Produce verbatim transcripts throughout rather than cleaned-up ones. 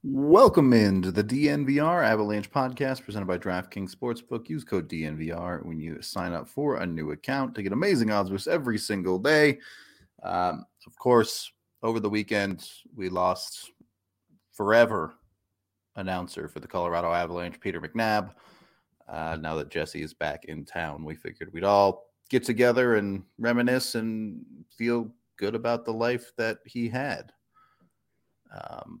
Welcome into the D N V R Avalanche podcast presented by DraftKings Sportsbook. Use code D N V R when you sign up for a new account to get amazing odds boosts every single day. Um, of course, over the weekend, we lost forever announcer for the Colorado Avalanche, Peter McNabb. Uh, now that Jesse is back in town, we figured we'd all get together and reminisce and feel good about the life that he had. Um,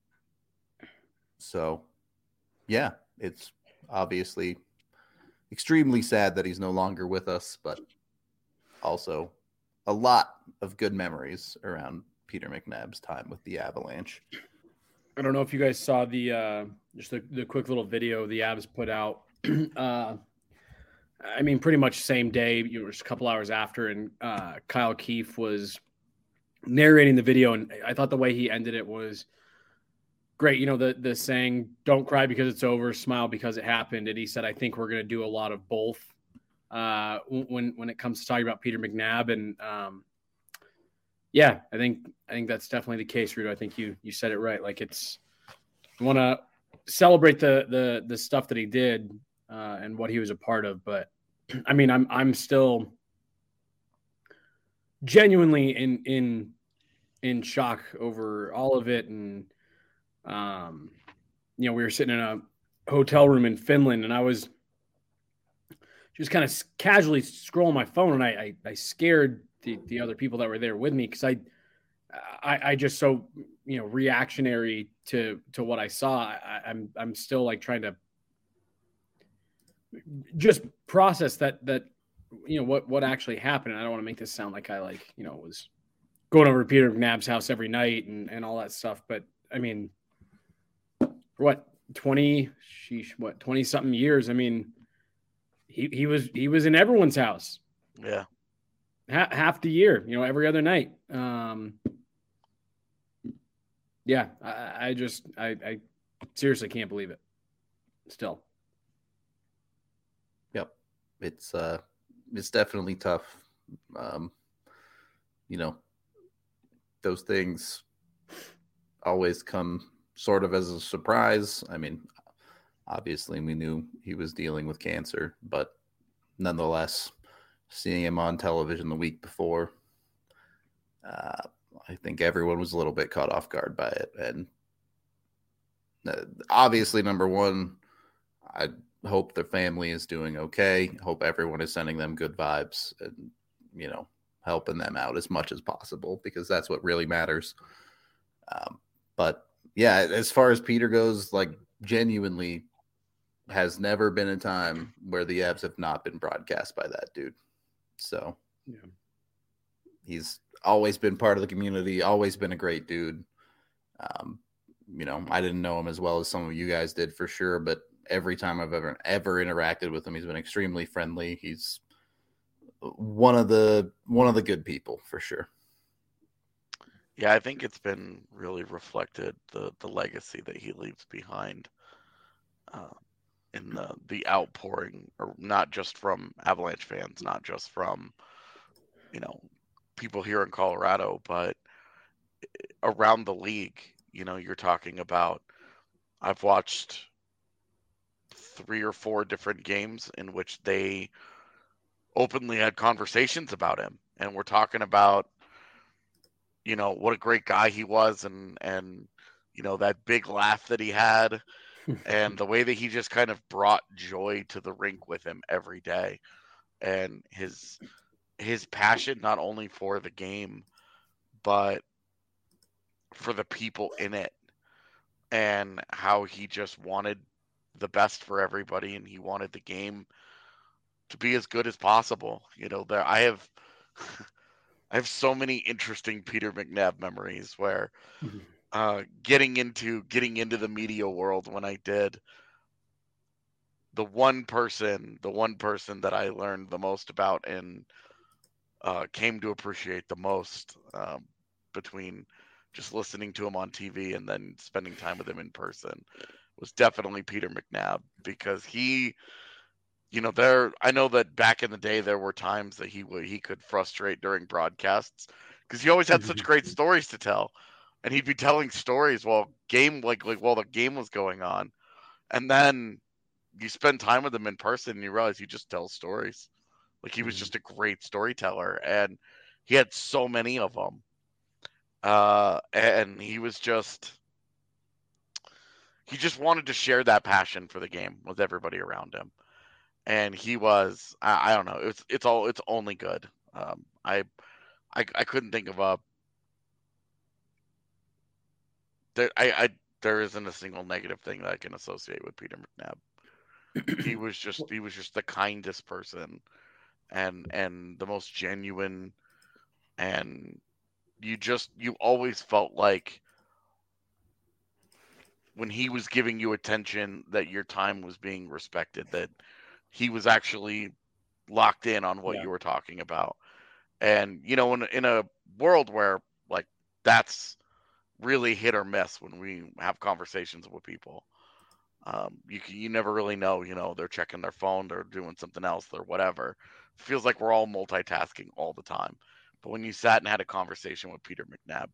So, yeah, it's obviously extremely sad that he's no longer with us, but also a lot of good memories around Peter McNabb's time with the Avalanche. I don't know if you guys saw the uh, just the, the quick little video the Avs put out. uh, I mean, pretty much same day, you know, just a couple hours after, and uh, Kyle Keefe was narrating the video, and I thought the way he ended it was great. You know, the the saying, "Don't cry because it's over, smile because it happened." And he said, "I think we're going to do a lot of both uh, when when it comes to talking about Peter McNabb." And um, yeah, I think I think that's definitely the case, Rudo. I think you you said it right. Like it's you want to celebrate the the the stuff that he did uh, and what he was a part of, but I mean, I'm I'm still genuinely in in in shock over all of it. And um, you know, we were sitting in a hotel room in Finland, and I was just kind of casually scrolling my phone, and I I, I scared the, the other people that were there with me because I, I I just so you know reactionary to to what I saw. I, I'm I'm still like trying to just process that that you know what what actually happened. And I don't want to make this sound like I like you know was going over to Peter McNabb's house every night and and all that stuff. But I mean, for what twenty sheesh, what twenty something years? I mean, he he was he was in everyone's house. Yeah. Ha- half the year, you know, every other night. Um, yeah, I, I just, I, I seriously can't believe it. Still. Yep, it's uh, it's definitely tough. Um, you know, those things always come sort of as a surprise. I mean, obviously, we knew he was dealing with cancer, but nonetheless, seeing him on television the week before, uh, I think everyone was a little bit caught off guard by it. And uh, obviously, number one, I hope their family is doing okay. Hope everyone is sending them good vibes and, you know, helping them out as much as possible because that's what really matters. Um, but yeah, as far as Peter goes, like genuinely has never been a time where the Avs have not been broadcast by that dude. So yeah. He's always been part of the community, always been a great dude. Um, you know, I didn't know him as well as some of you guys did for sure, but every time I've ever ever interacted with him, he's been extremely friendly. He's one of the one of the good people for sure. Yeah, I think it's been really reflected the the legacy that he leaves behind uh, in the the outpouring, or not just from Avalanche fans, not just from you know people here in Colorado, but around the league. You know, you're talking about. I've watched three or four different games in which they openly had conversations about him, and we're talking about you know what a great guy he was, and and you know that big laugh that he had, and the way that he just kind of brought joy to the rink with him every day, and his his passion not only for the game but for the people in it, and how he just wanted the best for everybody, and he wanted the game to be as good as possible. You know, there I have I have so many interesting Peter McNabb memories where uh, getting into getting into the media world when I did, the one person, the one person that I learned the most about and uh, came to appreciate the most um, between just listening to him on T V and then spending time with him in person was definitely Peter McNabb, because he, you know, there. I know that back in the day there were times that he would he could frustrate during broadcasts because he always had such great stories to tell. and he'd be telling stories while game like like while the game was going on, and then you spend time with him in person and you realize he just tells stories. Like he was Mhm. just a great storyteller, and he had so many of them. Uh, and he was just he just wanted to share that passion for the game with everybody around him. And he was I, I don't know, it's it's all it's only good. Um, I, I I couldn't think of a there I, I there isn't a single negative thing that I can associate with Peter McNabb. He was just he was just the kindest person and and the most genuine, and you just you always felt like when he was giving you attention that your time was being respected, that he was actually locked in on what Yeah. you were talking about. And you know, in in a world where like that's really hit or miss when we have conversations with people. Um, you can, you never really know, you know, they're checking their phone, they're doing something else, or whatever. Feels like we're all multitasking all the time. But when you sat and had a conversation with Peter McNabb,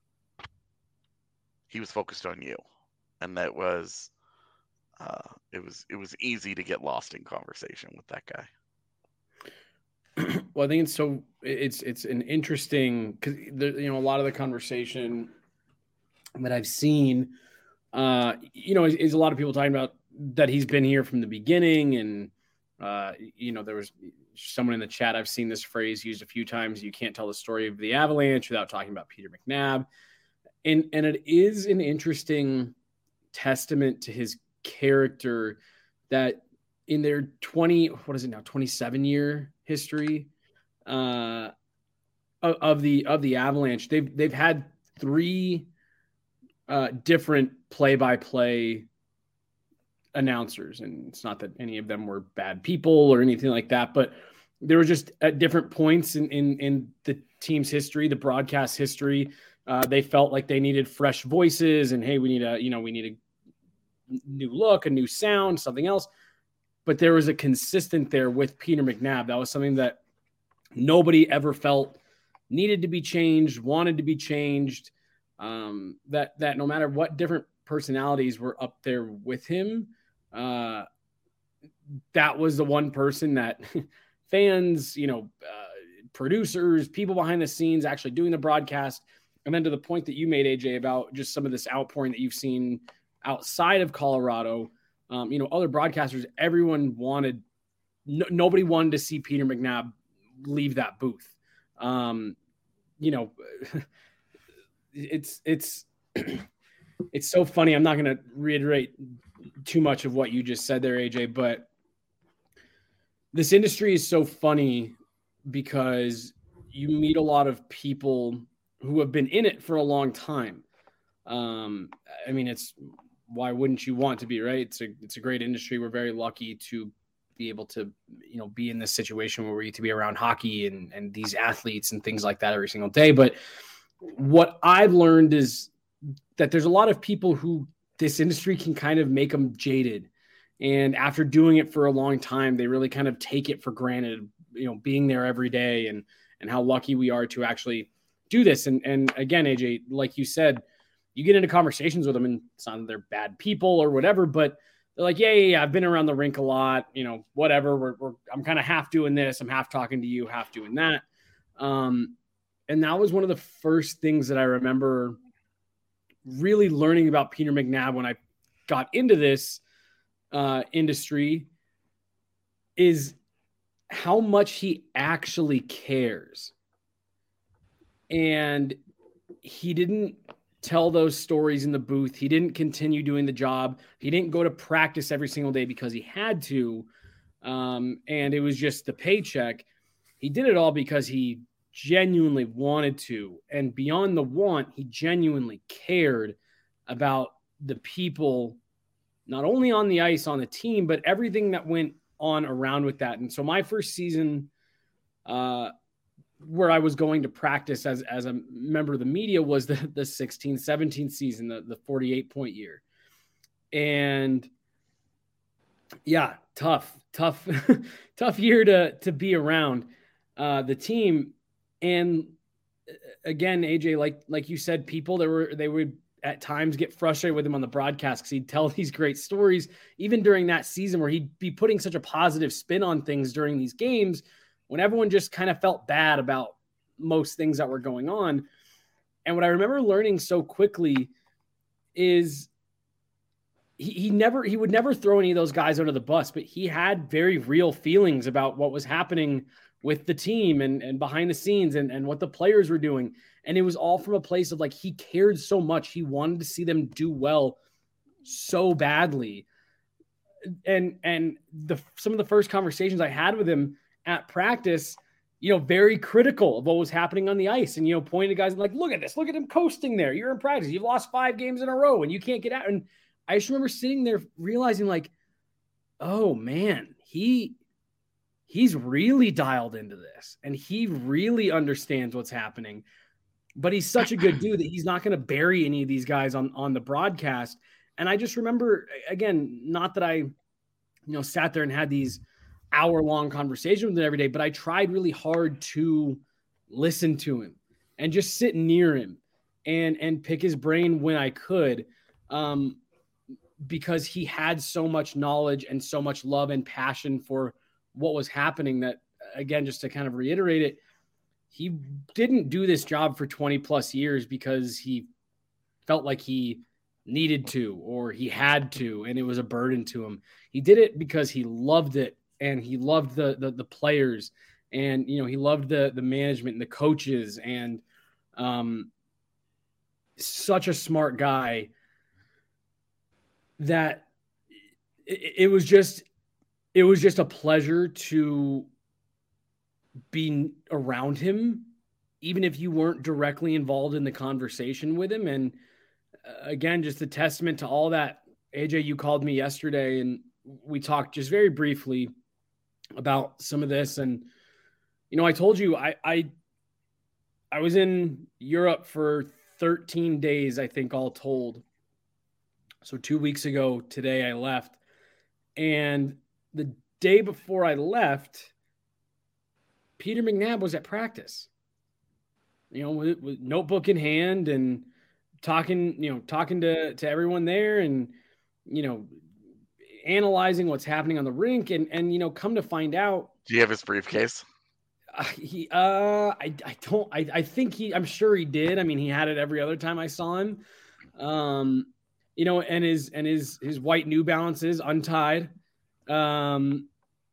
he was focused on you, and that was uh, it was it was easy to get lost in conversation with that guy. Well, I think it's so it's it's an interesting because you know a lot of the conversation that I've seen, uh, you know, is, is a lot of people talking about that he's been here from the beginning, and uh, you know, there was someone in the chat, I've seen this phrase used a few times: "You can't tell the story of the Avalanche without talking about Peter McNabb," and and it is an interesting testament to his character that in their twenty what is it now twenty-seven year history uh, of, of the of the Avalanche, they've they've had three uh, different play-by-play announcers, and it's not that any of them were bad people or anything like that, but they were just at different points in in, in the team's history, the broadcast history. Uh, they felt like they needed fresh voices, and hey, we need a you know we need a new look, a new sound, something else. But there was a consistent there with Peter McNabb. That was something that nobody ever felt needed to be changed, wanted to be changed. Um, that that no matter what different personalities were up there with him, uh, that was the one person that fans, you know, uh, producers, people behind the scenes actually doing the broadcast. And then to the point that you made, A J, about just some of this outpouring that you've seen outside of Colorado, um, you know, other broadcasters, everyone wanted, no, nobody wanted to see Peter McNabb leave that booth. Um, you know, it's, it's, it's so funny. I'm not going to reiterate too much of what you just said there, A J, but this industry is so funny because you meet a lot of people who have been in it for a long time. Um, I mean, it's, why wouldn't you want to be, right? It's a, it's a great industry. We're very lucky to be able to, you know, be in this situation where we get to be around hockey and, and these athletes and things like that every single day. But what I've learned is that there's a lot of people who this industry can kind of make them jaded. And after doing it for a long time, they really kind of take it for granted, you know, being there every day and, and how lucky we are to actually do this. And, and again, A J, like you said, you get into conversations with them and it's not that they're bad people or whatever, but they're like, yeah, yeah, yeah, I've been around the rink a lot, you know, whatever. We're, we're I'm kind of half doing this. I'm half talking to you, half doing that. Um, and that was one of the first things that I remember really learning about Peter McNabb when I got into this uh, industry, is how much he actually cares. And he didn't tell those stories in the booth. He didn't continue doing the job. He didn't go to practice every single day because he had to. Um, and it was just the paycheck. He did it all because he genuinely wanted to. And beyond the want, he genuinely cared about the people, not only on the ice, on the team, but everything that went on around with that. And so my first season, uh, where I was going to practice as, as a member of the media was the, the sixteen seventeen season, the, the forty-eight point year. And yeah, tough, tough, tough year to, to be around uh, the team. And again, A J, like like you said, people that were they would at times get frustrated with him on the broadcast because he'd tell these great stories, even during that season where he'd be putting such a positive spin on things during these games, when everyone just kind of felt bad about most things that were going on. And what I remember learning so quickly is he, he never he would never throw any of those guys under the bus, but he had very real feelings about what was happening with the team and, and behind the scenes and, and what the players were doing. And it was all from a place of like, he cared so much. He wanted to see them do well so badly. And, and the, some of the first conversations I had with him at practice, you know, very critical of what was happening on the ice and, you know, pointing to guys like, look at this, look at him coasting there. You're in practice. You've lost five games in a row and you can't get out. And I just remember sitting there realizing like, oh man, he, he's really dialed into this and he really understands what's happening, but he's such a good dude that he's not going to bury any of these guys on, on the broadcast. And I just remember, again, not that I, you know, sat there and had these hour long conversations with him every day, but I tried really hard to listen to him and just sit near him and, and pick his brain when I could. Um, because he had so much knowledge and so much love and passion for what was happening that, again, just to kind of reiterate it, he didn't do this job for twenty plus years because he felt like he needed to, or he had to, and it was a burden to him. He did it because he loved it and he loved the, the, the players and, you know, he loved the, the management and the coaches and um, such a smart guy that it, it was just, it was just a pleasure to be around him, even if you weren't directly involved in the conversation with him. And uh, again, just a testament to all that. A J, you called me yesterday and we talked just very briefly about some of this. And, you know, I told you, I, I, I was in Europe for thirteen days, I think all told. So two weeks ago today I left, and the day before I left, Peter McNabb was at practice, you know, with, with notebook in hand and talking, you know, talking to, to everyone there and, you know, analyzing what's happening on the rink. And, and, you know, come to find out. Do you have his briefcase? Uh, he, uh, I, I don't, I, I think he, I'm sure he did. I mean, he had it every other time I saw him. Um, you know, and his, and his, his white New Balances untied. Um,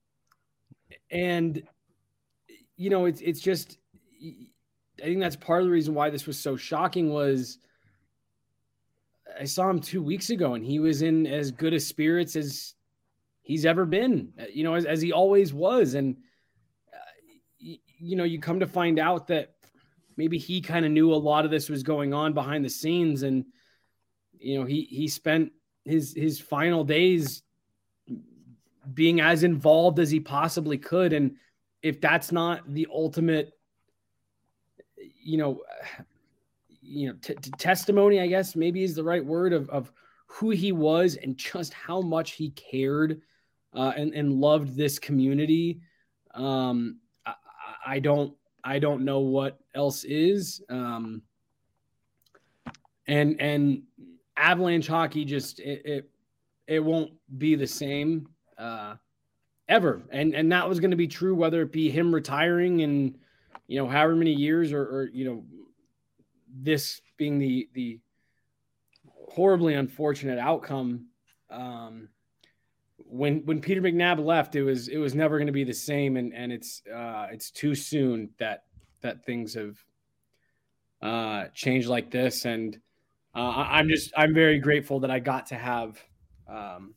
and, you know, it's, it's just, I think that's part of the reason why this was so shocking was I saw him two weeks ago and he was in as good a spirits as he's ever been, you know, as, as he always was. And, uh, y- you know, you come to find out that maybe he kind of knew a lot of this was going on behind the scenes. And, you know, he, he spent his, his final days being as involved as he possibly could. And if that's not the ultimate, you know, you know, t- t- testimony, I guess maybe is the right word of, of who he was and just how much he cared uh, and, and loved this community. Um, I, I don't, I don't know what else is. Um, and, and Avalanche hockey just, it, it, it won't be the same uh, ever. And, and that was going to be true, whether it be him retiring in, you know, however many years or, or, you know, this being the, the horribly unfortunate outcome. Um, when, when Peter McNabb left, it was, it was never going to be the same. And, and it's, uh, it's too soon that, that things have uh, changed like this. And uh, I'm just, I'm very grateful that I got to have um,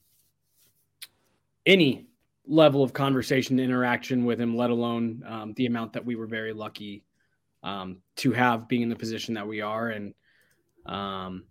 any level of conversation, interaction with him, let alone um, the amount that we were very lucky um, to have being in the position that we are. And um,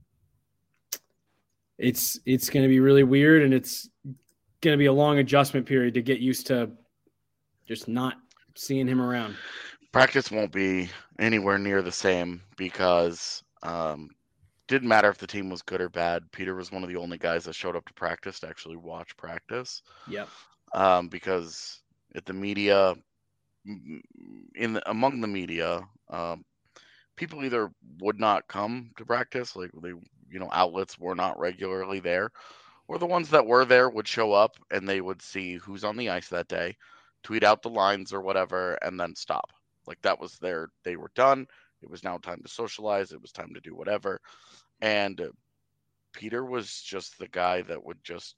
it's, it's going to be really weird and it's going to be a long adjustment period to get used to just not seeing him around. Practice won't be anywhere near the same because um, didn't matter if the team was good or bad. Peter was one of the only guys that showed up to practice to actually watch practice. Yep. Um, because at the media, in the, among the media, um, people either would not come to practice, like they, you know, outlets were not regularly there, or the ones that were there would show up and they would see who's on the ice that day, tweet out the lines or whatever, and then stop. Like that was their, they were done. It was now time to socialize. It was time to do whatever. And uh, Peter was just the guy that would just,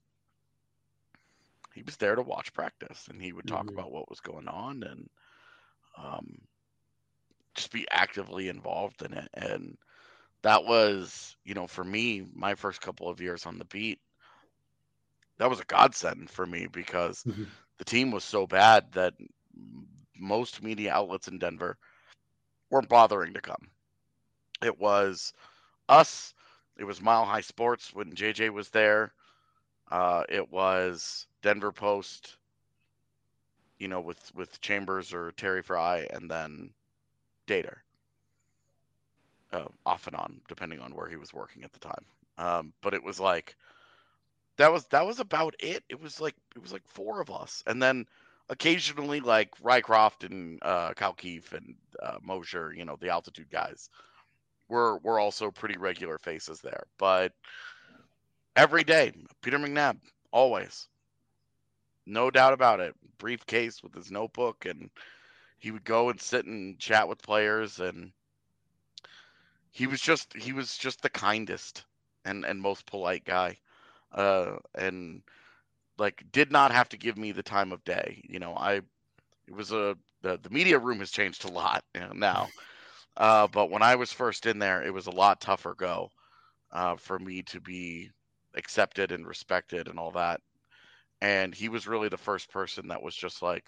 he was there to watch practice, and he would talk Mhm. about what was going on and um, just be actively involved in it. And that was, you know, for me, my first couple of years on the beat, that was a godsend for me because Mhm. the team was so bad that m- most media outlets in Denver weren't bothering to come. It was us. It was Mile High Sports when J J was there. Uh, it was Denver Post, you know, with with Chambers or Terry Fry, and then Dater, uh, off and on, depending on where he was working at the time. Um, but it was like that was that was about it. It was like it was like four of us, and then occasionally like Rycroft and uh, Kyle Keefe and uh, Mosher, you know, the altitude guys, were were also pretty regular faces there. But every day, Peter McNabb, always, no doubt about it. Briefcase with his notebook, and he would go and sit and chat with players, and he was just he was just the kindest and and most polite guy, uh, and like did not have to give me the time of day. You know, I it was a the, the media room has changed a lot, you know, now, uh, but when I was first in there, it was a lot tougher go uh, for me to be accepted and respected and all that. And he was really the first person that was just like,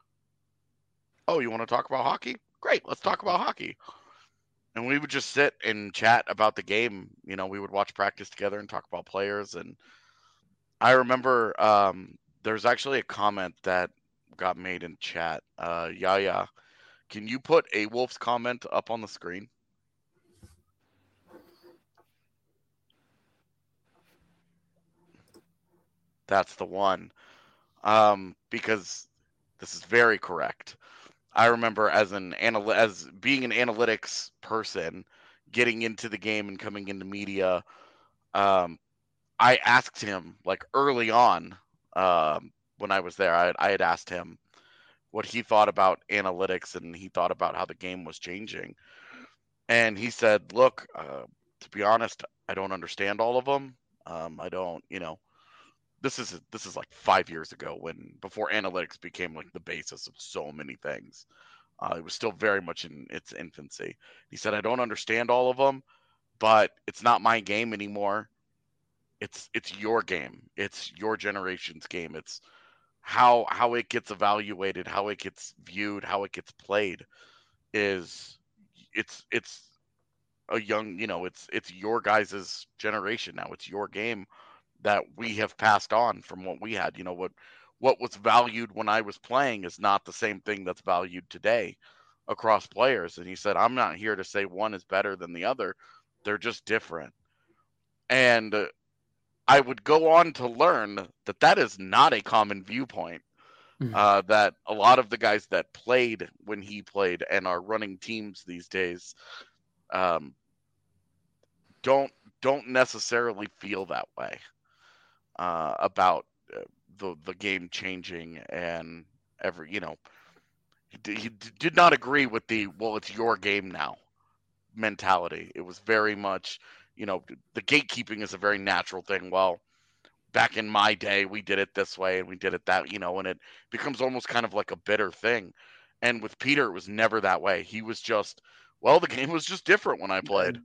"Oh, you want to talk about hockey? Great, let's talk about hockey." And we would just sit and chat about the game. You know, we would watch practice together and talk about players. And I remember um, there's actually a comment that got made in chat. Uh, Yaya, can you put A Wolf's comment up on the screen? That's the one. Um, because this is very correct. I remember as an anal- as being an analytics person, getting into the game and coming into media. Um, I asked him like early on um, when I was there. I, I had asked him what he thought about analytics, and he thought about how the game was changing. And he said, "Look, uh, to be honest, I don't understand all of them. Um, I don't, you know." This is this is like five years ago, when before analytics became like the basis of so many things. Uh, it was still very much in its infancy. He said, "I don't understand all of them, but it's not my game anymore. It's it's your game. It's your generation's game. It's how how it gets evaluated, how it gets viewed, how it gets played is it's it's a young, you know, it's it's your guys' generation now. It's your game that we have passed on from what we had. You know, what what was valued when I was playing is not the same thing that's valued today across players." And he said, "I'm not here to say one is better than the other. They're just different." And uh, I would go on to learn that that is not a common viewpoint. Uh, that a lot of the guys that played when he played and are running teams these days um, don't don't necessarily feel that way uh, about uh, the the game changing and every you know he, d- he d- did not agree with the "well, it's your game now" mentality. It was very much, you know, the gatekeeping is a very natural thing. Well, back in my day, we did it this way and we did it that, you know, and it becomes almost kind of like a bitter thing. And with Peter, it was never that way. He was just, well, the game was just different when I played.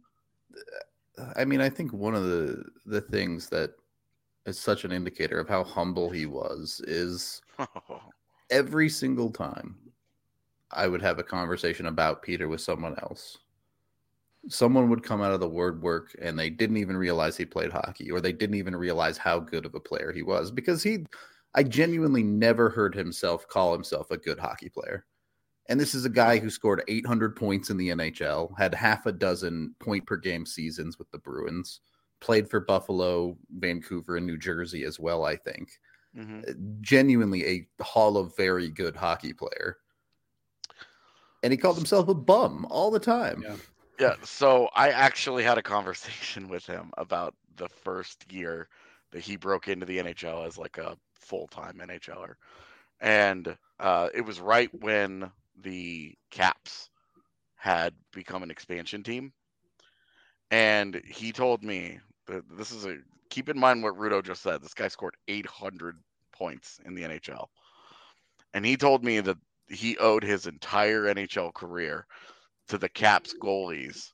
I mean, I think one of the the things that is such an indicator of how humble he was is every single time I would have a conversation about Peter with someone else, someone would come out of the word work and they didn't even realize he played hockey, or they didn't even realize how good of a player he was, because he, I genuinely never heard himself call himself a good hockey player. And this is a guy who scored eight hundred points in the N H L, had half a dozen point per game seasons with the Bruins, played for Buffalo, Vancouver, and New Jersey as well, I think. Mm-hmm. Genuinely a hall of very good hockey player. And he called himself a bum all the time. Yeah. Yeah, so I actually had a conversation with him about the first year that he broke into the N H L as like a full-time NHLer. And uh, it was right when the Caps had become an expansion team. And he told me that this is a keep in mind what Rudo just said. This guy scored eight hundred points in the N H L. And he told me that he owed his entire N H L career to the Caps goalies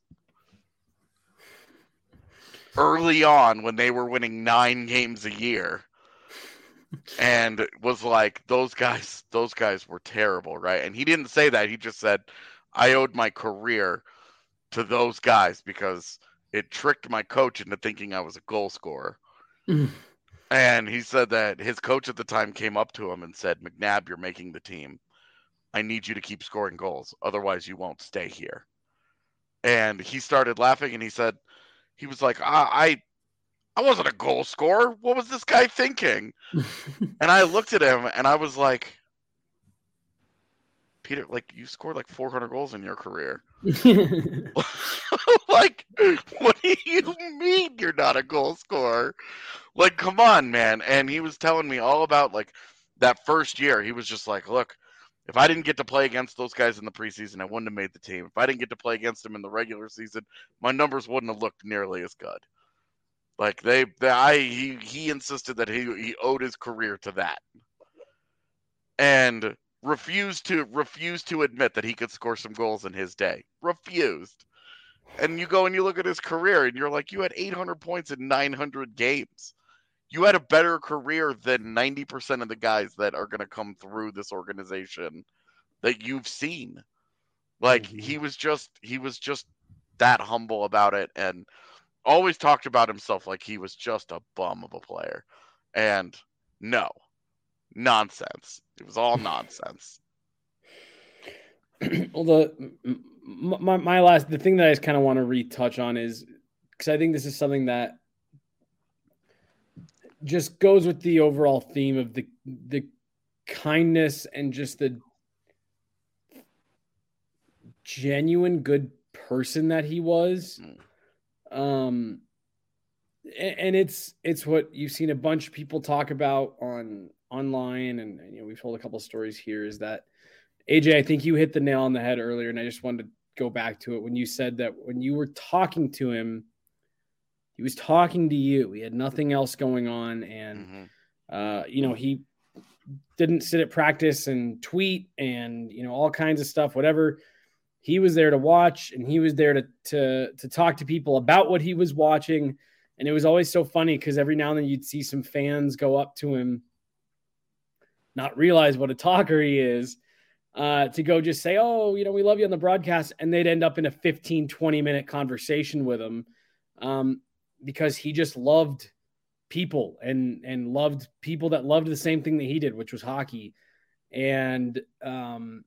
early on when they were winning nine games a year. And was like, those guys, those guys were terrible, right? And he didn't say that. He just said, I owed my career to those guys because it tricked my coach into thinking I was a goal scorer. And he said that his coach at the time came up to him and said, McNabb, you're making the team. I need you to keep scoring goals. Otherwise, you won't stay here. And he started laughing and he said, he was like, I, I, I wasn't a goal scorer. What was this guy thinking? And I looked at him and I was like, Peter, like you scored like four hundred goals in your career. Like, what do you mean you're not a goal scorer? Like, come on, man. And he was telling me all about like that first year. He was just like, look, if I didn't get to play against those guys in the preseason, I wouldn't have made the team. If I didn't get to play against them in the regular season, my numbers wouldn't have looked nearly as good. Like they, they I, he, he insisted that he, he owed his career to that, and refused to refused to admit that he could score some goals in his day. Refused. And you go and you look at his career, and you're like, you had eight hundred points in nine hundred games. You had a better career than ninety percent of the guys that are going to come through this organization that you've seen. Like mm-hmm. he was just he was just that humble about it, and always talked about himself like he was just a bum of a player. And no, nonsense. It was all nonsense. Well, the my, my last the thing that I just kind of want to retouch on is because I think this is something that just goes with the overall theme of the the kindness and just the genuine good person that he was. Mm. Um, and, and it's it's what you've seen a bunch of people talk about on online, and, and you know we've told a couple of stories here. Is that A J? I think you hit the nail on the head earlier, and I just wanted to go back to it when you said that when you were talking to him, he was talking to you. He had nothing else going on, and mm-hmm. uh, you know he didn't sit at practice and tweet and you know all kinds of stuff, whatever. He was there to watch, and he was there to to to talk to people about what he was watching. And it was always so funny because every now and then you'd see some fans go up to him, not realize what a talker he is, uh, to go just say, oh, you know, we love you on the broadcast. And they'd end up in a fifteen, twenty minute conversation with him um, because he just loved people and, and loved people that loved the same thing that he did, which was hockey. And, um,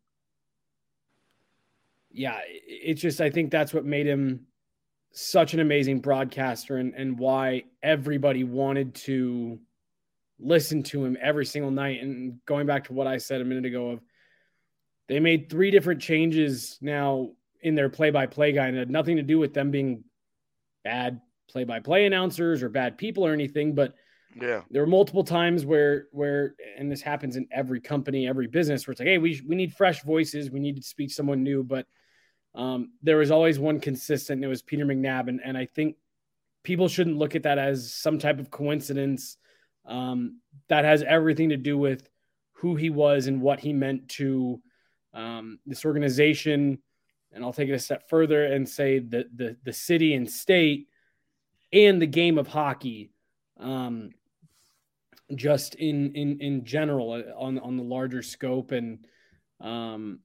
yeah, it's just, I think that's what made him such an amazing broadcaster and, and why everybody wanted to listen to him every single night. And going back to what I said a minute ago of they made three different changes now in their play-by-play guy, and it had nothing to do with them being bad play-by-play announcers or bad people or anything. But yeah, there were multiple times where, where, and this happens in every company, every business where it's like, hey, we, we need fresh voices. We need to speak someone new. But Um, there was always one consistent, and it was Peter McNabb. And, and I think people shouldn't look at that as some type of coincidence. Um, that has everything to do with who he was and what he meant to um, this organization. And I'll take it a step further and say that the, the city and state and the game of hockey, um, just in, in, in general on, on the larger scope. And, um,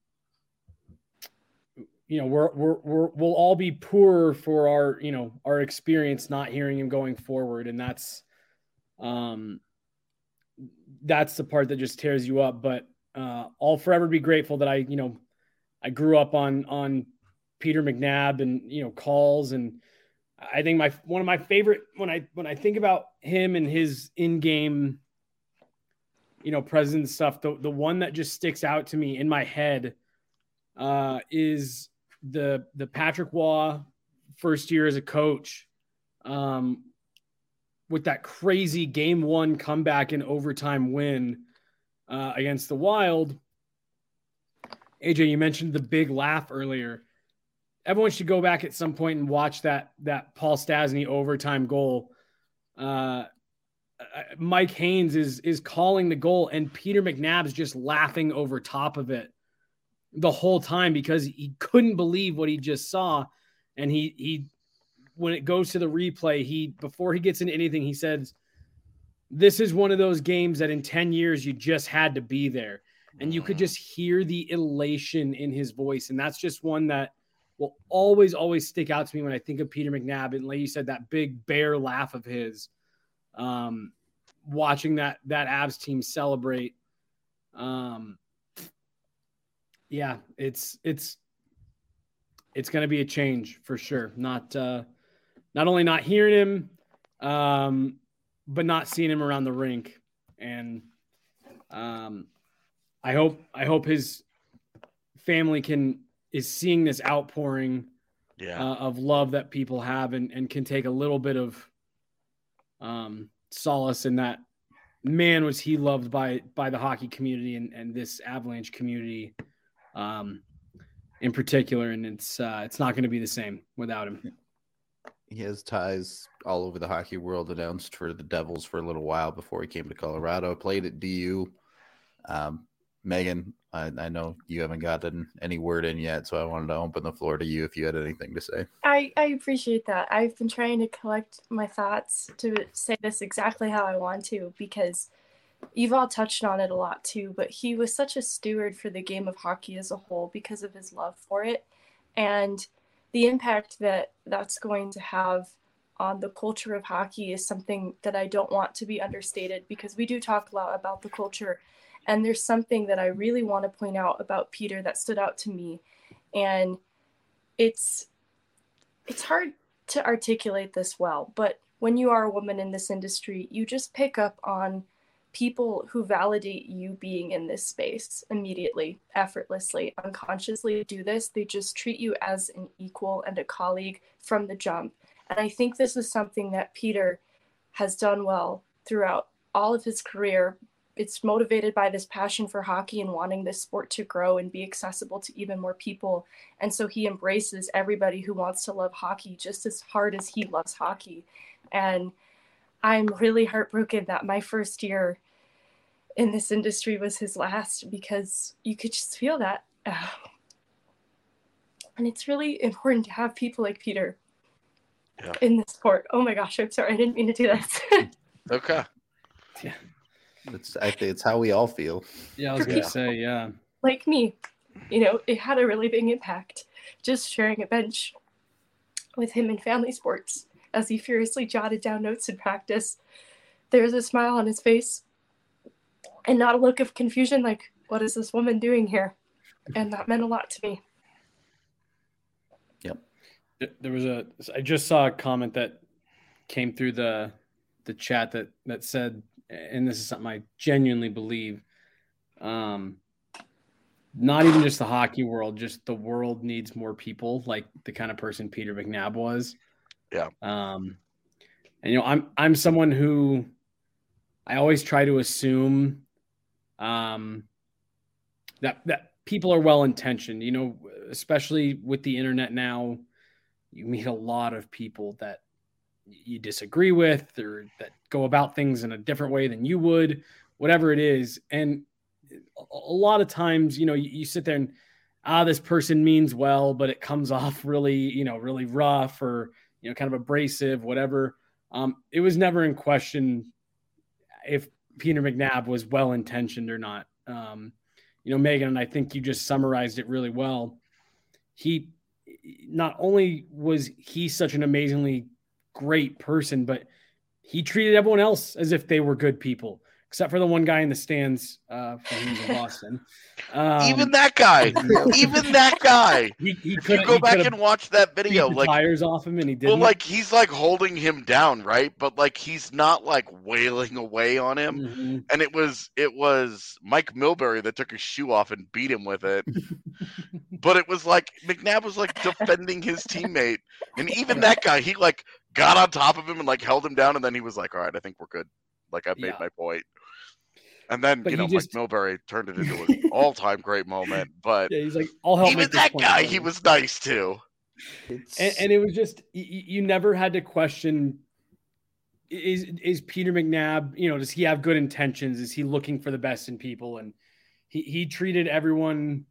you know, we're, we're, we're, we'll all be poorer for our, you know, our experience, not hearing him going forward. And that's, um, that's the part that just tears you up. But, uh, I'll forever be grateful that I, you know, I grew up on, on Peter McNabb and, you know, calls. And I think my, one of my favorite, when I, when I think about him and his in-game, you know, presence stuff, the, the one that just sticks out to me in my head, uh, is the the Patrick Waugh first year as a coach, um, with that crazy game one comeback and overtime win uh, against the Wild. A J, you mentioned the big laugh earlier. Everyone should go back at some point and watch that that Paul Stastny overtime goal. Uh, Mike Haynes is is calling the goal, and Peter McNabb's just laughing over top of it the whole time because he couldn't believe what he just saw. And he he when it goes to the replay, he before he gets into anything, he says, "This is one of those games that in ten years you just had to be there." And you could just hear the elation in his voice. And that's just one that will always, always stick out to me when I think of Peter McNabb. And like you said, that big bear laugh of his, um, watching that, that Avs team celebrate. Um, yeah, it's, it's, it's going to be a change for sure. Not, uh, not only not hearing him, um, but not seeing him around the rink. And, um, I hope I hope his family can is seeing this outpouring yeah. uh, of love that people have and, and can take a little bit of um, solace in that. Man, was he loved by by the hockey community and, and this Avalanche community um, in particular, and it's uh, it's not going to be the same without him. He has ties all over the hockey world. Announced for the Devils for a little while before he came to Colorado. Played at D U. Um, Megan, I, I know you haven't gotten any word in yet, so I wanted to open the floor to you if you had anything to say. I, I appreciate that. I've been trying to collect my thoughts to say this exactly how I want to, because you've all touched on it a lot too, but he was such a steward for the game of hockey as a whole because of his love for it. And the impact that that's going to have on the culture of hockey is something that I don't want to be understated, because we do talk a lot about the culture. And there's something that I really want to point out about Peter that stood out to me. And it's it's hard to articulate this well, but when you are a woman in this industry, you just pick up on people who validate you being in this space immediately, effortlessly, unconsciously do this. They just treat you as an equal and a colleague from the jump. And I think this is something that Peter has done well throughout all of his career. It's motivated by this passion for hockey and wanting this sport to grow and be accessible to even more people. And so he embraces everybody who wants to love hockey just as hard as he loves hockey. And I'm really heartbroken that my first year in this industry was his last, because you could just feel that. Uh, and it's really important to have people like Peter yeah. in the sport. Oh my gosh, I'm sorry. I didn't mean to do that. Okay. Yeah. It's I think it's how we all feel. Yeah, I was gonna say, yeah. Like me, you know, it had a really big impact. Just sharing a bench with him in family sports as he furiously jotted down notes in practice. There's a smile on his face and not a look of confusion, like, what is this woman doing here? And that meant a lot to me. Yep. There was a I just saw a comment that came through the the chat that that said, and this is something I genuinely believe, um, not even just the hockey world, just the world needs more people like the kind of person Peter McNabb was. Yeah. Um, and, you know, I'm, I'm someone who I always try to assume um, that, that people are well-intentioned, you know, especially with the internet now. You meet a lot of people that you disagree with or that go about things in a different way than you would, whatever it is. And a lot of times, you know, you, you sit there and, ah, this person means well, but it comes off really, you know, really rough or, you know, kind of abrasive, whatever. Um, it was never in question if Peter McNabb was well-intentioned or not. Um, you know, Megan, and I think you just summarized it really well. He, not only was he such an amazingly great person, but he treated everyone else as if they were good people, except for the one guy in the stands uh, from in Boston. Um, even that guy, even that guy. He, he if you go back and watch that video, the like tires off him, and he did. Well, like he's like holding him down, right? But like he's not like wailing away on him. Mm-hmm. And it was it was Mike Milbury that took his shoe off and beat him with it. But it was like McNabb was like defending his teammate, and even that guy, he like got on top of him and like held him down, and then he was like, "All right, I think we're good. Like I've made Yeah. my point." And then, But you know, just... Mike Milbury turned it into an all-time great moment. But yeah, he's like, I'll help even make this that point guy, better. he was nice too. And, and it was just, you, you never had to question, is is Peter McNabb, you know, does he have good intentions? Is he looking for the best in people? And he, he treated everyone,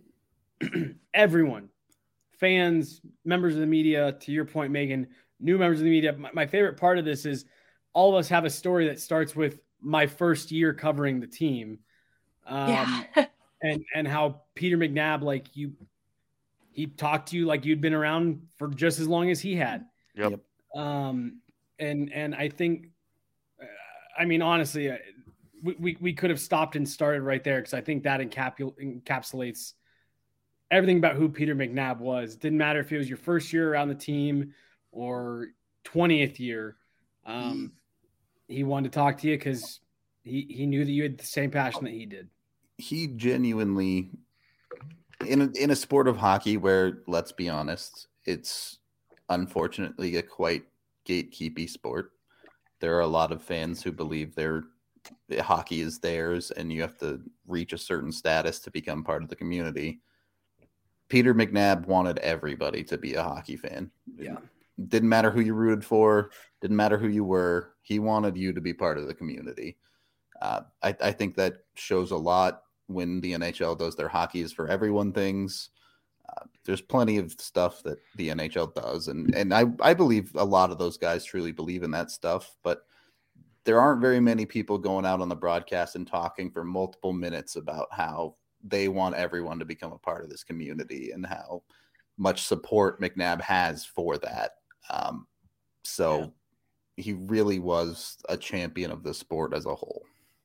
everyone, fans, members of the media, to your point, Megan, new members of the media. My, my favorite part of this is all of us have a story that starts with my first year covering the team. Um, Yeah. and, and how Peter McNabb, like you, he talked to you like you'd been around for just as long as he had. Yep. Um, and, and I think, uh, I mean, honestly, uh, we, we, we could have stopped and started right there. Cause I think that encapul- encapsulates everything about who Peter McNabb was. Didn't matter if it was your first year around the team or twentieth year. Um, he wanted to talk to you cause he, he knew that you had the same passion that he did. He genuinely, in a, in a sport of hockey where, let's be honest, it's unfortunately a quite gatekeepy sport. There are a lot of fans who believe their hockey is theirs and you have to reach a certain status to become part of the community. Peter McNabb wanted everybody to be a hockey fan. Yeah. Didn't matter who you rooted for, didn't matter who you were. He wanted you to be part of the community. Uh, I, I think that shows a lot when the N H L does their hockey is for everyone things. Uh, there's plenty of stuff that the N H L does. And, and I, I believe a lot of those guys truly believe in that stuff. But there aren't very many people going out on the broadcast and talking for multiple minutes about how they want everyone to become a part of this community and how much support McNabb has for that. Um, so yeah. He really was a champion of the sport as a whole.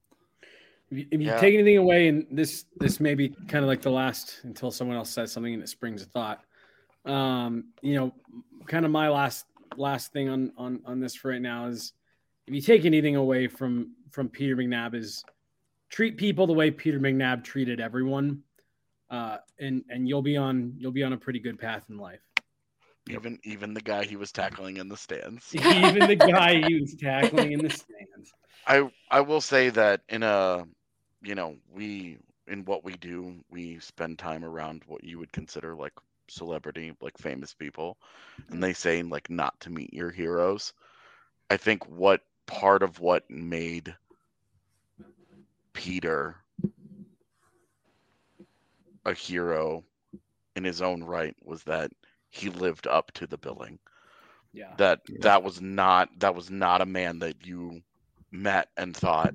If you, if you Yeah. take anything away, and this this may be kind of like the last until someone else says something and it springs a thought. Um, you know, kind of my last last thing on on on this for right now is if you take anything away from from Peter McNabb is treat people the way Peter McNabb treated everyone, uh, and and you'll be on you'll be on a pretty good path in life. Even even the guy he was tackling in the stands. Even the guy he was tackling in the stands. I I will say that in a you know we in what we do we spend time around what you would consider like celebrity, like famous people, and they say like not to meet your heroes. I think what part of what made Peter a hero in his own right was that he lived up to the billing. Yeah. That Yeah. that was not that was not a man that you met and thought,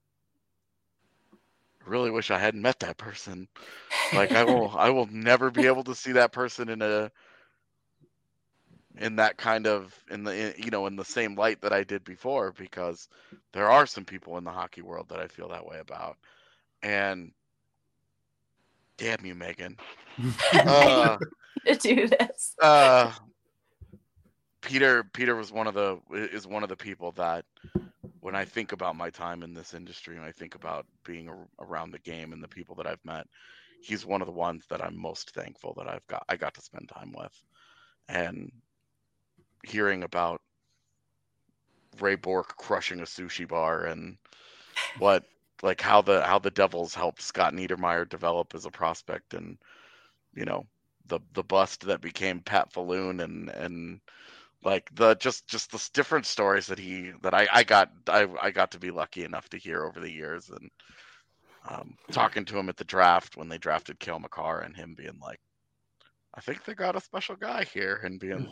really wish I hadn't met that person. Like I will I will never be able to see that person in a in that kind of in the you know in the same light that I did before, because there are some people in the hockey world that I feel that way about. And damn you, Megan. uh, to do this. uh, Peter Peter was one of the is one of the people that when I think about my time in this industry and I think about being a, around the game and the people that I've met, he's one of the ones that I'm most thankful that I've got I got to spend time with. And hearing about Ray Bork crushing a sushi bar and what like how the how the Devils helped Scott Niedermayer develop as a prospect, and you know the the bust that became Pat Falloon, and and like the just just the different stories that he that I I got I I got to be lucky enough to hear over the years, and um, talking to him at the draft when they drafted Cale Makar and him being like, I think they got a special guy here, and being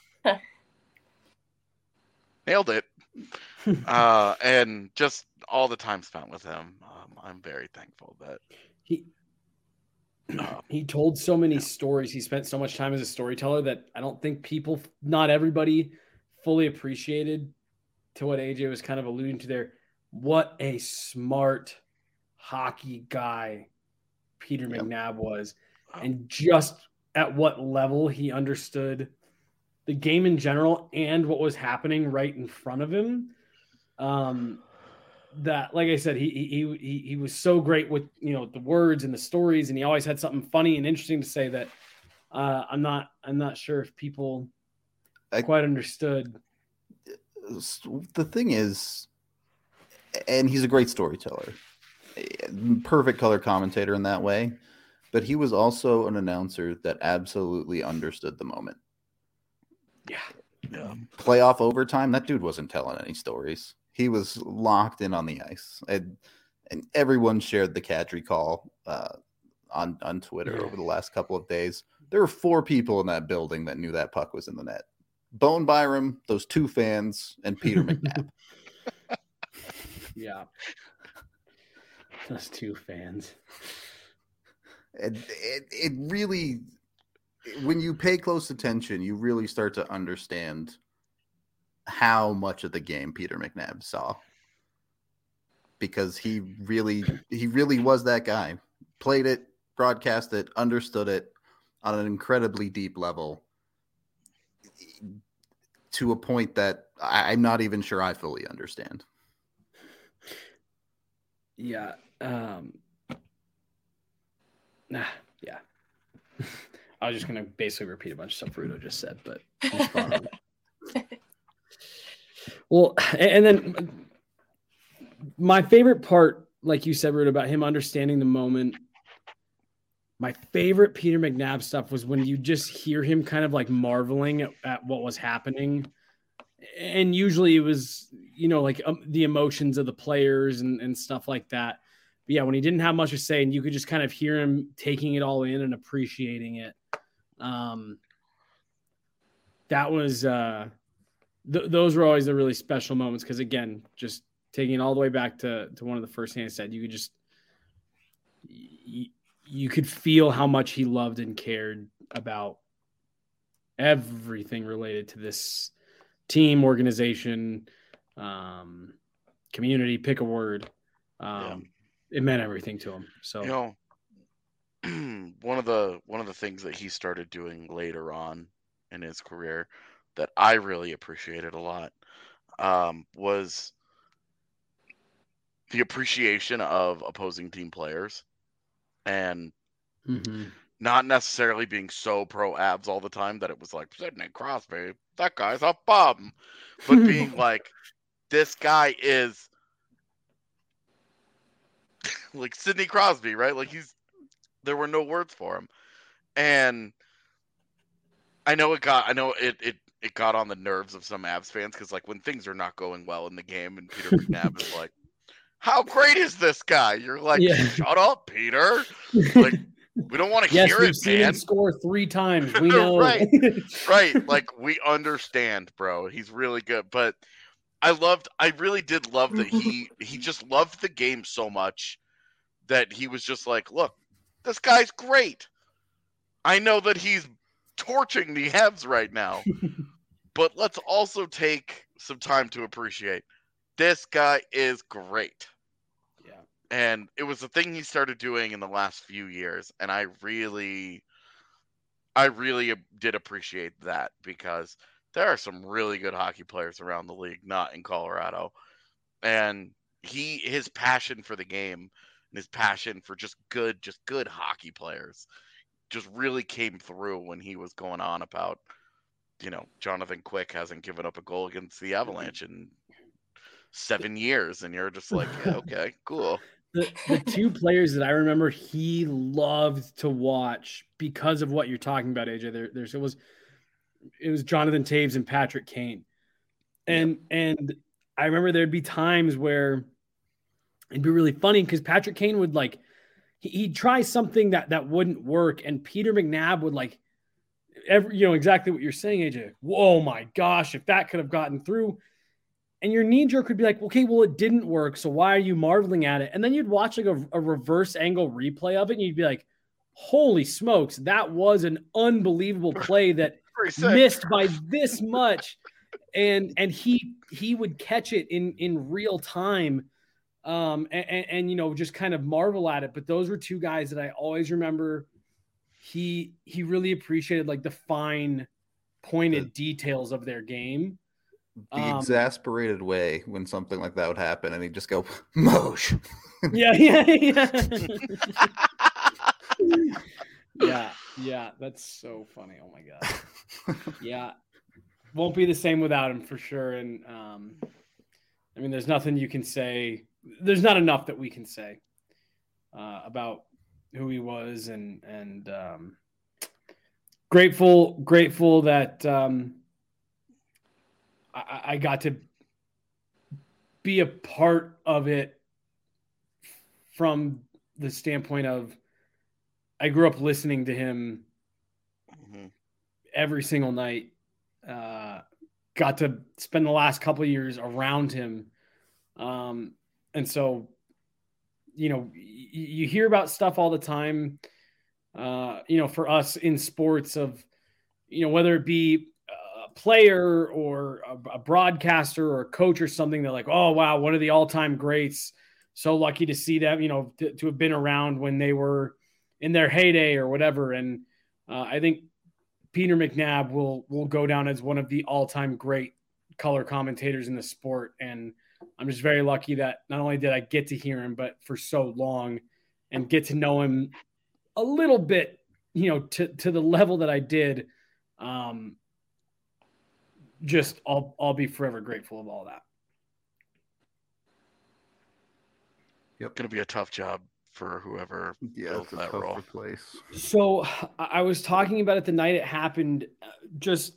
nailed it. uh, and just all the time spent with him, um, I'm very thankful that He um, he told so many yeah. stories. He spent so much time as a storyteller that I don't think people, not everybody, fully appreciated. To what A J was kind of alluding to there, what a smart hockey guy Peter Yep. McNabb was, and just at what level he understood the game in general and what was happening right in front of him. Um, that, like I said, he he he he was so great with, you know, the words and the stories, and he always had something funny and interesting to say that uh, I'm not I'm not sure if people I, quite understood. The thing is, and he's a great storyteller, perfect color commentator in that way, but he was also an announcer that absolutely understood the moment. Yeah. Yeah. Playoff overtime, that dude wasn't telling any stories. He was locked in on the ice, and, and everyone shared the Kadri call uh, on on Twitter Yeah. over the last couple of days. There were four people in that building that knew that puck was in the net: Bone Byram, those two fans, and Peter McNabb. Yeah, those two fans. And it, it really, when you pay close attention, you really start to understand how much of the game Peter McNabb saw, because he really he really was that guy. Played it, broadcast it, understood it on an incredibly deep level, to a point that I, I'm not even sure I fully understand. Yeah. Um, nah, yeah. I was just going to basically repeat a bunch of stuff Rudo just said, but he's spot on. Well, and then my favorite part, like you said, Rudo, about him understanding the moment, my favorite Peter McNabb stuff was when you just hear him kind of like marveling at, at what was happening. And usually it was, you know, like um, the emotions of the players and, and stuff like that. But yeah, when he didn't have much to say, and you could just kind of hear him taking it all in and appreciating it. Um, that was, uh, th- those were always the really special moments. Cause again, just taking it all the way back to, to one of the first things I said, you could just, you, you could feel how much he loved and cared about everything related to this team, organization, um, community, pick a word. Um, Yeah. It meant everything to him. So, You know, one of the one of the things that he started doing later on in his career that I really appreciated a lot um, was the appreciation of opposing team players, and mm-hmm. not necessarily being so pro abs all the time that it was like, Sidney Crosby, that guy's a bum, but being like, this guy is like Sidney Crosby, right? Like he's, there were no words for him. And I know it got, I know it, it, it got on the nerves of some Avs fans, because like when things are not going well in the game and Peter McNabb is like, how great is this guy? You're like, Yeah. shut up, Peter. Like, we don't want to Yes, hear we've it, seen man. him score three times. We know. Right. Right. Like, we understand, bro. He's really good. But I loved, I really did love that he, he just loved the game so much that he was just like, look, this guy's great. I know that he's torching the Habs right now, but let's also take some time to appreciate this guy is great. Yeah. And it was the thing he started doing in the last few years. And I really, I really did appreciate that, because there are some really good hockey players around the league, not in Colorado. And he, his passion for the game and his passion for just good, just good hockey players just really came through when he was going on about, you know, Jonathan Quick hasn't given up a goal against the Avalanche in seven years. And you're just like, yeah, okay, cool. The, the two players that I remember he loved to watch because of what you're talking about, A J, there, there's, it was, it was Jonathan Toews and Patrick Kane. And, yep. and I remember there'd be times where it'd be really funny because Patrick Kane would like, he, he'd try something that, that wouldn't work. And Peter McNabb would like, every, you know, exactly what you're saying, A J. Oh my gosh, if that could have gotten through. And your knee jerk would be like, okay, well, it didn't work. So why are you marveling at it? And then you'd watch like a, a reverse angle replay of it. And you'd be like, holy smokes, that was an unbelievable play that missed by this much. And, and he, he would catch it in, in real time. um, and, and, and, you know, just kind of marvel at it. But those were two guys that I always remember. He, he really appreciated like the fine pointed the, details of their game. The um, exasperated way when something like that would happen, and he'd just go, Moj. Yeah, yeah, yeah. yeah, yeah. That's so funny. Oh my God. Yeah. Won't be the same without him for sure. And um, I mean, there's nothing you can say. There's not enough that we can say uh, about who he was, and and um, grateful, grateful that um, I, I got to be a part of it from the standpoint of I grew up listening to him mm-hmm. every single night. Uh, got to spend the last couple of years around him. Um, and so, you know, y- you hear about stuff all the time, uh, you know, for us in sports of, you know, whether it be a player or a, a broadcaster or a coach or something, they're like, oh, wow, one of the all-time greats. So lucky to see them, you know, to, to have been around when they were in their heyday or whatever. And uh, I think Peter McNabb will will go down as one of the all-time great color commentators in the sport. And I'm just very lucky that not only did I get to hear him, but for so long and get to know him a little bit, you know, to, to the level that I did. Um, just I'll, I'll be forever grateful of all that. Yep. Going to be a tough job for whoever yeah, built that role. Place. So I was talking about it the night it happened. Just,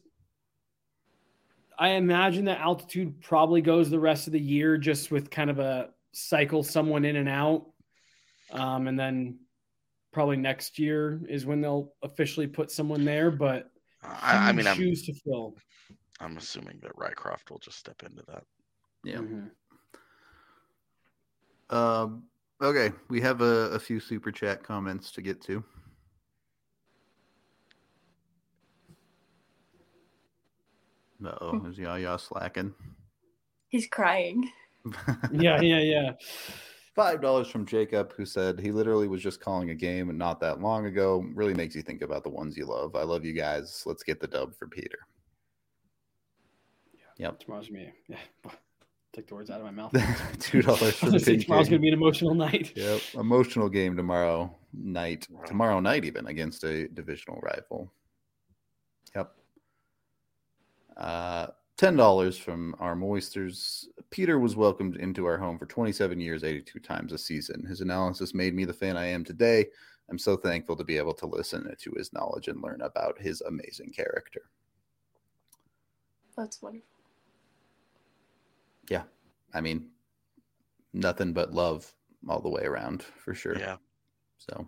I imagine that Altitude probably goes the rest of the year just with kind of a cycle someone in and out. Um, and then probably next year is when they'll officially put someone there, but I, I mean, shoes I'm, to fill. I'm assuming that Rycroft will just step into that. Yeah. Mm-hmm. Um, Okay, we have a, a few super chat comments to get to. Uh-oh, is Yaya slacking? He's crying. yeah, yeah, yeah. Five dollars from Jacob, who said he literally was just calling a game not that long ago. Really makes you think about the ones you love. I love you guys. Let's get the dub for Peter. Yeah, yep. Tomorrow's me. Yeah. Take the words out of my mouth. Two dollars for the Pin Tomorrow's going to be an emotional night. Yep, emotional game tomorrow night. Tomorrow night, even against a divisional rival. Yep. Uh, ten dollars from our Moisters. Peter was welcomed into our home for twenty-seven years, eighty-two times a season. His analysis made me the fan I am today. I'm so thankful to be able to listen to his knowledge and learn about his amazing character. That's wonderful. Yeah, I mean, nothing but love all the way around for sure. Yeah. So.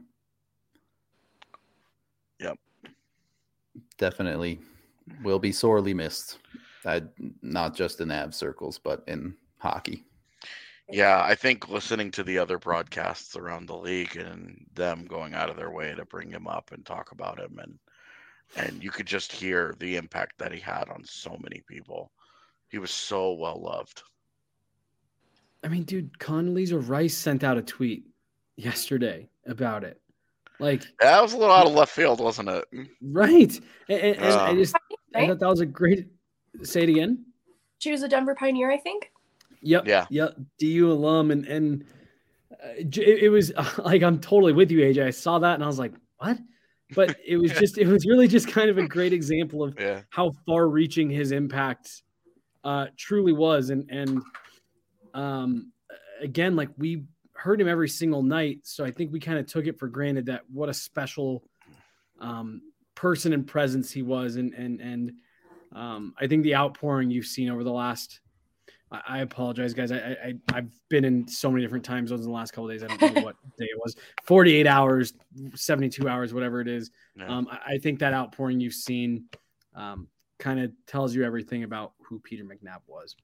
Yep. Definitely will be sorely missed. I, not just in Avs circles, but in hockey. Yeah, I think listening to the other broadcasts around the league and them going out of their way to bring him up and talk about him, and and you could just hear the impact that he had on so many people. He was so well loved. I mean, dude, Condoleezza Rice sent out a tweet yesterday about it. Like, yeah, that was a little out of left field, wasn't it? Right. And, and, and um, I just I thought that was a great. Say it again. She was a Denver Pioneer, I think. Yep. Yeah. Yep. D U alum, and and uh, it, it was uh, like I'm totally with you, A J. I saw that and I was like, what? But it was just it was really just kind of a great example of yeah. how far-reaching his impact uh, truly was, and and um, again, like we heard him every single night, so I think we kind of took it for granted that what a special um, person and presence he was, and and and um, I think the outpouring you've seen over the last. I, I apologize, guys. I, I I've been in so many different time zones in the last couple of days. I don't know what day it was. forty-eight hours, seventy-two hours, whatever it is. Yeah. Um, I, I think that outpouring you've seen um, kind of tells you everything about who Peter McNabb was.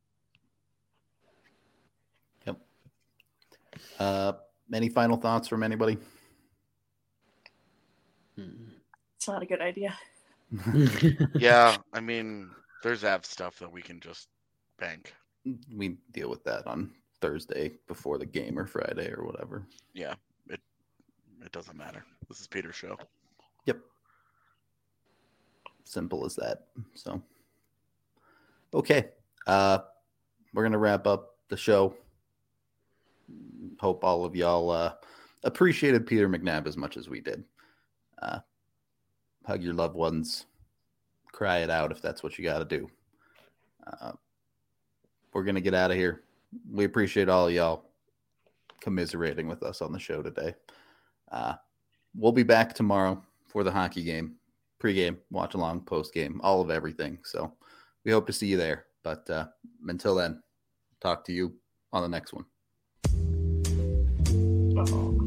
Yep. Uh, any final thoughts from anybody? It's not a good idea. Yeah, I mean, there's Av stuff that we can just bank. We deal with that on Thursday before the game or Friday or whatever. Yeah, it it doesn't matter. This is Peter's show. Yep. Simple as that. So, okay. Uh, we're going to wrap up the show. Hope all of y'all uh, appreciated Peter McNabb as much as we did. Uh, hug your loved ones. Cry it out if that's what you got to do. Uh, we're going to get out of here. We appreciate all of y'all commiserating with us on the show today. Uh, we'll be back tomorrow for the hockey game, pregame, watch along, postgame, all of everything. So we hope to see you there. But uh, until then, talk to you on the next one. Uh-oh.